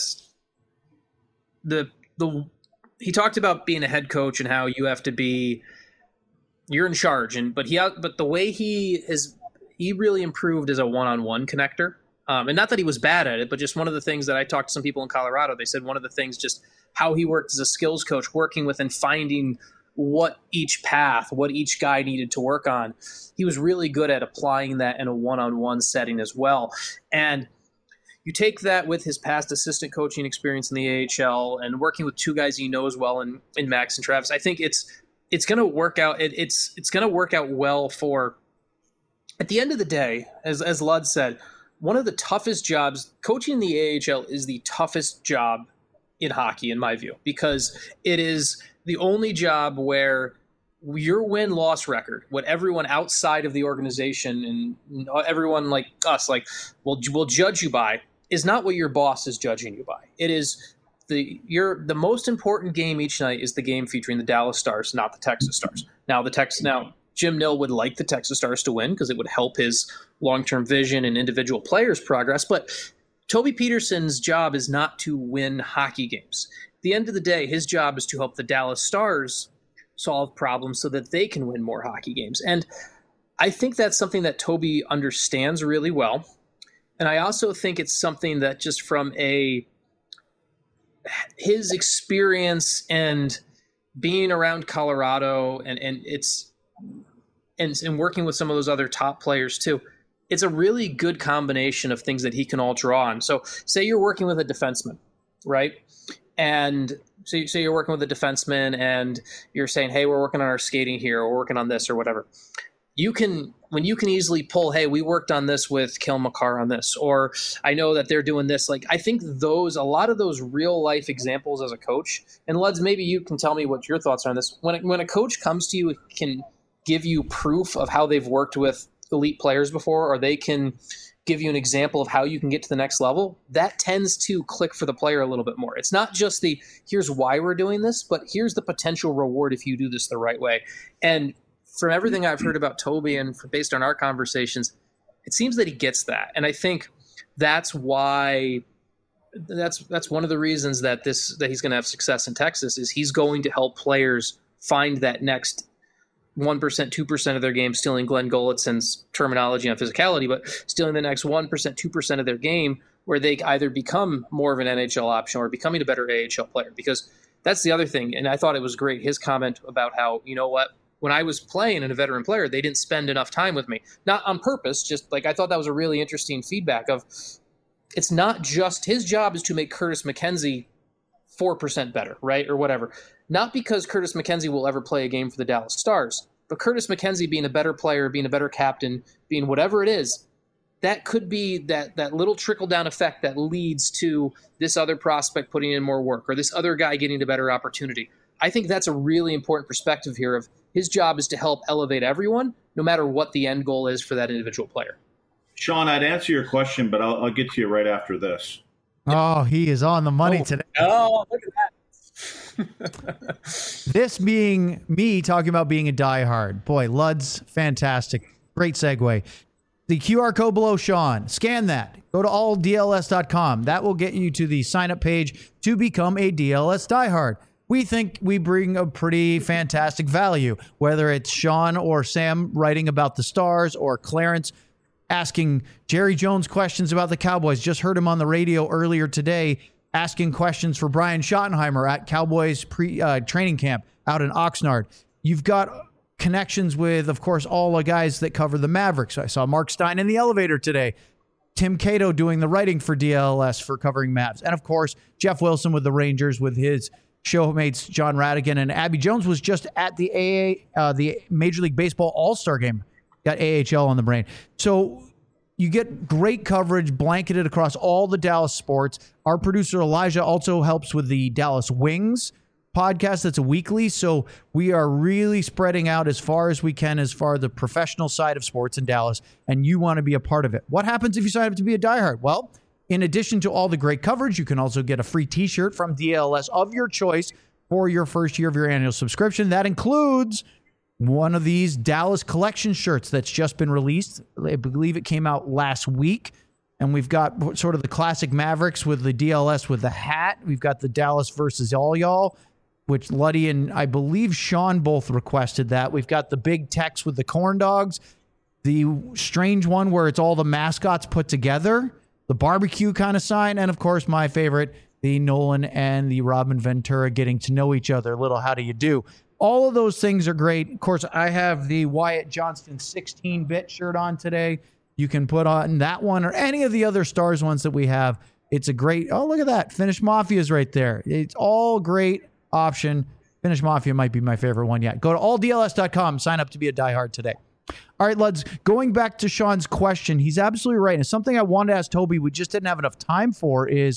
he talked about being a head coach and how you're in charge, but the way he really improved as a one-on-one connector. And not that he was bad at it, but just one of the things that I talked to some people in Colorado, they said one of the things, just how he worked as a skills coach, working with and finding what each guy needed to work on. He was really good at applying that in a one-on-one setting as well. And you take that with his past assistant coaching experience in the AHL and working with two guys he knows well in Max and Travis. I think it's going to work out. It's going to work out well for, at the end of the day, as Lud said, one of the toughest jobs, coaching in the AHL is the toughest job in hockey, in my view, because it is the only job where your win-loss record, what everyone outside of the organization and everyone like us, will judge you by, is not what your boss is judging you by. It is the most important game each night is the game featuring the Dallas Stars, not the Texas Stars. Now Jim Nill would like the Texas Stars to win because it would help his long-term vision and individual players' progress. But Toby Peterson's job is not to win hockey games. At the end of the day, his job is to help the Dallas Stars solve problems so that they can win more hockey games. And I think that's something that Toby understands really well. And I also think it's something that just from his experience and being around Colorado and working with some of those other top players too, it's a really good combination of things that he can all draw on. So say you're working with a defenseman, right? And so you're working with a defenseman and you're saying, hey, we're working on our skating here, or we're working on this or whatever. When you can easily pull, hey, we worked on this with Cale Makar on this, or I know that they're doing this. Like, I think a lot of those real life examples as a coach, and Luds, maybe you can tell me what your thoughts are on this. When a coach comes to you, can give you proof of how they've worked with elite players before, or they can give you an example of how you can get to the next level, that tends to click for the player a little bit more. It's not just here's why we're doing this, but here's the potential reward if you do this the right way. And from everything I've heard about Toby and based on our conversations, it seems that he gets that. And I think that's why that's one of the reasons that he's going to have success in Texas is he's going to help players find that next 1%, 2% of their game, stealing Glenn Golitson's terminology on physicality, but stealing the next 1%, 2% of their game where they either become more of an NHL option or becoming a better AHL player. Because that's the other thing. And I thought it was great, his comment about how, you know what, when I was playing and a veteran player, they didn't spend enough time with me. Not on purpose, just like I thought that was a really interesting feedback of it's not just his job is to make Curtis McKenzie 4% better, right? Or whatever. Not because Curtis McKenzie will ever play a game for the Dallas Stars, but Curtis McKenzie being a better player, being a better captain, being whatever it is, that could be that little trickle-down effect that leads to this other prospect putting in more work or this other guy getting a better opportunity. I think that's a really important perspective here of his job is to help elevate everyone, no matter what the end goal is for that individual player. Sean, I'd answer your question, but I'll get to you right after this. Oh, he is on the money today. Oh, look at that. This being me talking about being a diehard. Boy, Luds, fantastic. Great segue. The QR code below Sean, scan that. Go to alldls.com. That will get you to the sign-up page to become a DLS diehard. We think we bring a pretty fantastic value, whether it's Sean or Sam writing about the Stars or Clarence asking Jerry Jones questions about the Cowboys. Just heard him on the radio earlier today asking questions for Brian Schottenheimer at Cowboys training camp out in Oxnard. You've got connections with, of course, all the guys that cover the Mavericks. I saw Mark Stein in the elevator today. Tim Cato doing the writing for DLS for covering Mavs. And, of course, Jeff Wilson with the Rangers with his showmates John Radigan. And Abby Jones was just at the Major League Baseball All-Star game. Got AHL on the brain. So you get great coverage blanketed across all the Dallas sports. Our producer Elijah also helps with the Dallas Wings podcast. That's a weekly. So we are really spreading out as far as we can as far as the professional side of sports in Dallas, and you want to be a part of it. What happens if you sign up to be a diehard? Well, in addition to all the great coverage, you can also get a free t-shirt from DLS of your choice for your first year of your annual subscription. That includes one of these Dallas collection shirts that's just been released. I believe it came out last week. And we've got sort of the classic Mavericks with the DLS with the hat. We've got the Dallas versus all y'all, which Luddy and I believe Sean both requested that. We've got the big text with the corn dogs, the strange one where it's all the mascots put together, the barbecue kind of sign, and of course my favorite, the Nolan and the Robin Ventura getting to know each other. A little how do you do? All of those things are great. Of course, I have the Wyatt Johnston 16-bit shirt on today. You can put on that one or any of the other Stars ones that we have. It's a great, oh, look at that. Finnish Mafia is right there. It's all great option. Finnish Mafia might be my favorite one yet. Go to alldls.com. Sign up to be a diehard today. All right, Luds, going back to Sean's question, he's absolutely right. And something I wanted to ask Toby, we just didn't have enough time for, is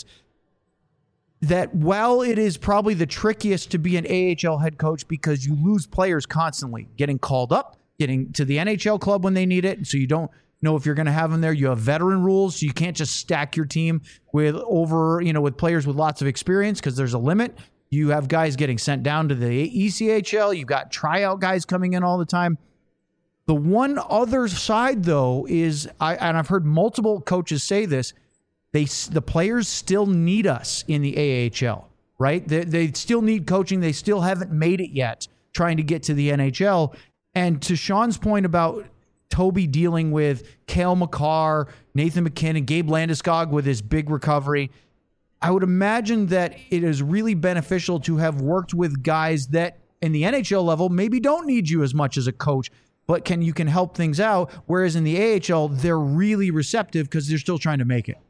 that while it is probably the trickiest to be an AHL head coach because you lose players constantly, getting called up, getting to the NHL club when they need it, so you don't know if you're going to have them there. You have veteran rules, so you can't just stack your team with with players with lots of experience because there's a limit. You have guys getting sent down to the ECHL. You've got tryout guys coming in all the time. The one other side, though, is, and I've heard multiple coaches say this, the players still need us in the AHL, right? They still need coaching. They still haven't made it yet trying to get to the NHL. And to Sean's point about Toby dealing with Cale Makar, Nathan MacKinnon, Gabe Landeskog with his big recovery, I would imagine that it is really beneficial to have worked with guys that in the NHL level maybe don't need you as much as a coach, but you can help things out. Whereas in the AHL, they're really receptive because they're still trying to make it.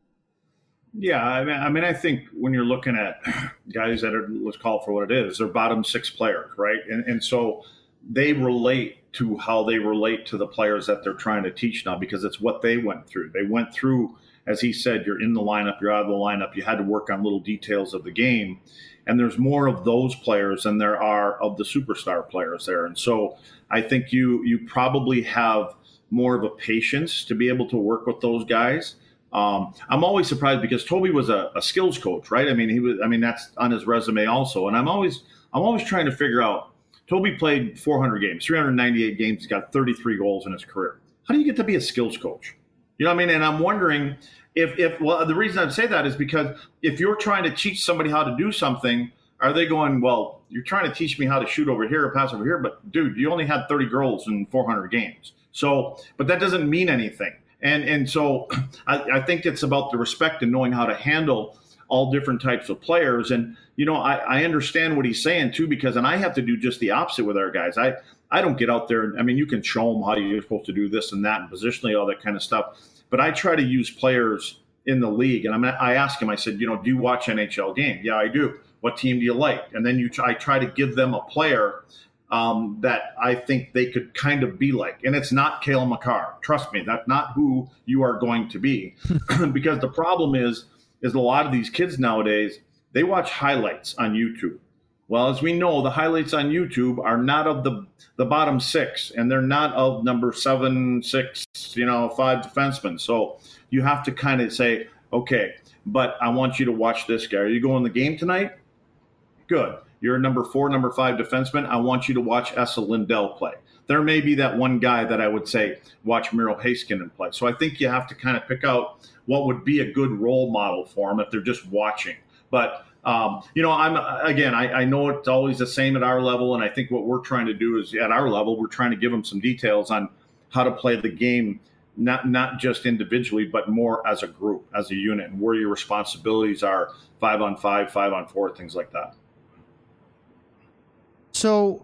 Yeah, I mean, I think when you're looking at guys that are, let's call it for what it is, they're bottom six players, right? And so they relate to how they relate to the players that they're trying to teach now because it's what they went through. They went through, as he said, you're in the lineup, you're out of the lineup, you had to work on little details of the game. And there's more of those players than there are of the superstar players there. And so I think you probably have more of a patience to be able to work with those guys. I'm always surprised because Toby was a skills coach, right? I mean, that's on his resume also. And I'm always trying to figure out, Toby played 400 games, 398 games. He's got 33 goals in his career. How do you get to be a skills coach? You know what I mean? And I'm wondering well, the reason I'd say that is because if you're trying to teach somebody how to do something, are they going, well, you're trying to teach me how to shoot over here or pass over here, but dude, you only had 30 goals in 400 games. So, but that doesn't mean anything. And so I think it's about the respect and knowing how to handle all different types of players. And, I understand what he's saying too, because, and I have to do just the opposite with our guys. I don't get out there. I mean, you can show them how you're supposed to do this and that and positionally, all that kind of stuff. But I try to use players in the league. And I ask him, I said, do you watch NHL game? Yeah, I do. What team do you like? And then I try to give them a player that I think they could kind of be like. And it's not Cale Makar. Trust me, that's not who you are going to be. Because the problem is a lot of these kids nowadays, they watch highlights on YouTube. Well, as we know, the highlights on YouTube are not of the bottom six, and they're not of number 7, 6, 5 defensemen. So you have to kind of say, okay, but I want you to watch this guy. Are you going to the game tonight? Good. You're a number 4, number 5 defenseman. I want you to watch Esa Lindell play. There may be that one guy that I would say, watch Miro Heiskanen play. So I think you have to kind of pick out what would be a good role model for them if they're just watching. But, I know it's always the same at our level. And I think what we're trying to do is at our level, we're trying to give them some details on how to play the game, not just individually, but more as a group, as a unit, and where your responsibilities are 5-on-5, 5-on-4, things like that. So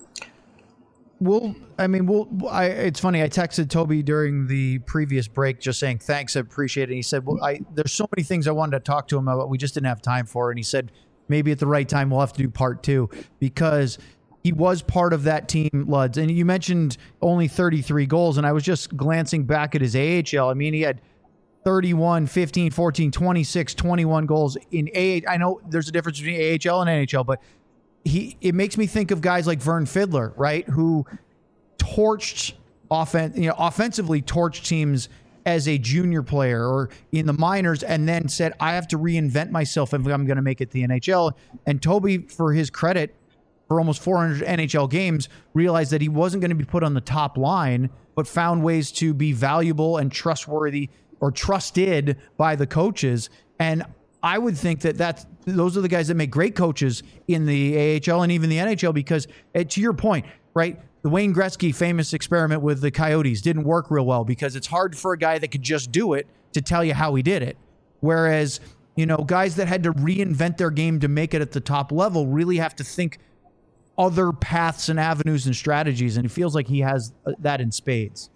it's funny. I texted Toby during the previous break just saying, thanks, I appreciate it. And he said, there's so many things I wanted to talk to him about. We just didn't have time for it. And he said, maybe at the right time, we'll have to do part 2 because he was part of that team, Luds. And you mentioned only 33 goals. And I was just glancing back at his AHL. I mean, he had 31, 15, 14, 26, 21 goals in AHL. I know there's a difference between AHL and NHL, but it makes me think of guys like Vern Fiddler, right? Who offensively torched teams as a junior player or in the minors and then said, I have to reinvent myself if I'm going to make it to the NHL. And Toby, for his credit, for almost 400 NHL games, realized that he wasn't going to be put on the top line, but found ways to be valuable and trustworthy or trusted by the coaches. And I would think that those are the guys that make great coaches in the AHL and even the NHL because, to your point, right, the Wayne Gretzky famous experiment with the Coyotes didn't work real well because it's hard for a guy that could just do it to tell you how he did it. Whereas, guys that had to reinvent their game to make it at the top level really have to think other paths and avenues and strategies, and it feels like he has that in spades.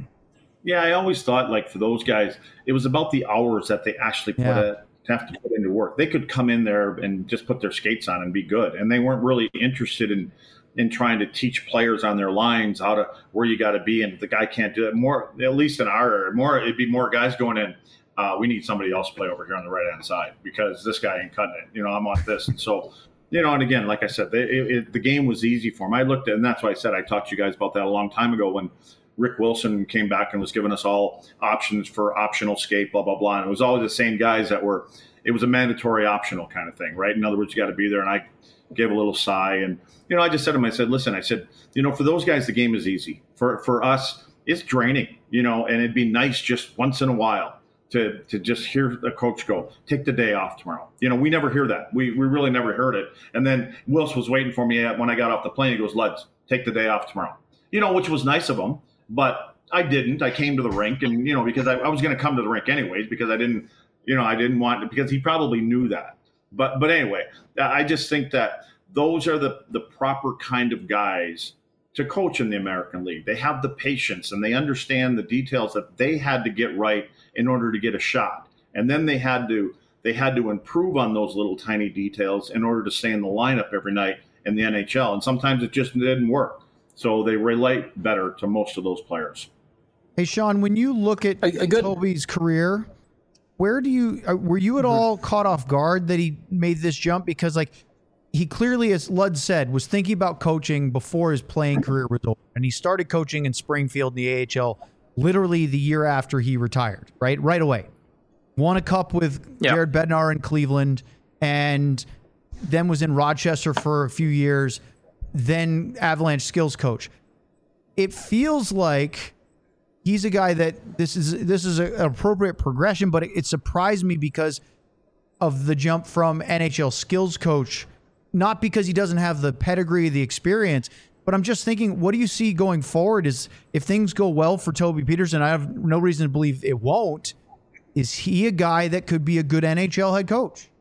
Yeah, I always thought, like, for those guys, it was about the hours that they actually have to put into work. They could come in there and just put their skates on and be good, and they weren't really interested in trying to teach players on their lines where you got to be, and the guy can't do it. More, at least in our area, it'd be more guys going in. We need somebody else to play over here on the right hand side because this guy ain't cutting it. I'm on this, and so. And again, like I said, the game was easy for him. I looked at, and that's why I said I talked to you guys about that a long time ago when Rick Wilson came back and was giving us all options for optional skate, blah, blah, blah. And it was always the same guys it was a mandatory optional kind of thing, right? In other words, you got to be there. And I gave a little sigh. And, I just said to him, I said, listen, for those guys, the game is easy. For us, it's draining, and it'd be nice just once in a while to just hear the coach go, take the day off tomorrow. We never hear that. We really never heard it. And then Wilson was waiting for me when I got off the plane. He goes, Luds, take the day off tomorrow. Which was nice of him, but I didn't. I came to the rink and, because I was going to come to the rink anyways, because I didn't want to, because he probably knew that. But anyway, I just think that those are the proper kind of guys to coach in the American League. They have the patience and they understand the details that they had to get right in order to get a shot. And then they had to improve on those little tiny details in order to stay in the lineup every night in the NHL. And sometimes it just didn't work. So they relate better to most of those players. Hey, Sean, when you look at Toby's career, were you at all caught off guard that he made this jump? Because he clearly, as Lud said, was thinking about coaching before his playing career was over. And he started coaching in Springfield in the AHL literally the year after he retired, right away. Won a cup with Jared Bednar in Cleveland, and then was in Rochester for a few years, then Avalanche skills coach. It feels like he's a guy that this is an appropriate progression, but it surprised me because of the jump from NHL skills coach, not because he doesn't have the pedigree, the experience, but I'm just thinking, what do you see going forward? Is if things go well for Toby Peterson, I have no reason to believe it won't. Is he a guy that could be a good NHL head coach?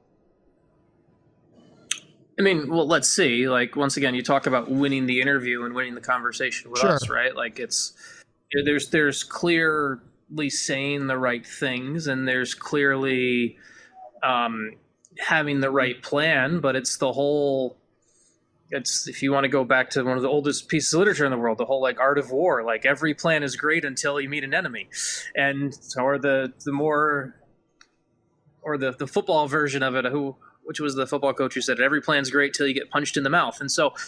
I mean, well, let's see. Once again, you talk about winning the interview and winning the conversation with us, right? There's clearly saying the right things, and there's clearly having the right plan, but it's the whole. It's, if you want to go back to one of the oldest pieces of literature in the world, the whole art of war, every plan is great until you meet an enemy. And so, or the football version of it, which was the football coach who said every plan's great till you get punched in the mouth. And so,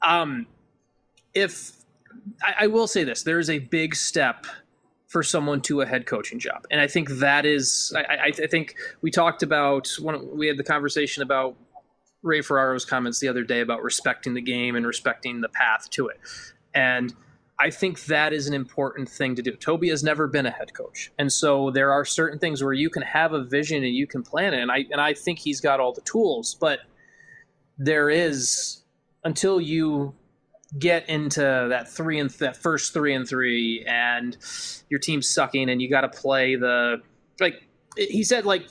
if I will say this, there is a big step for someone to a head coaching job, and I think that is. I think we talked about we had the conversation about Ray Ferraro's comments the other day about respecting the game and respecting the path to it, and I think that is an important thing to do. Toby has never been a head coach. And so there are certain things where you can have a vision and you can plan it. And I think he's got all the tools, but there is, until you get into that first 3-3 and your team's sucking and you got to play he said,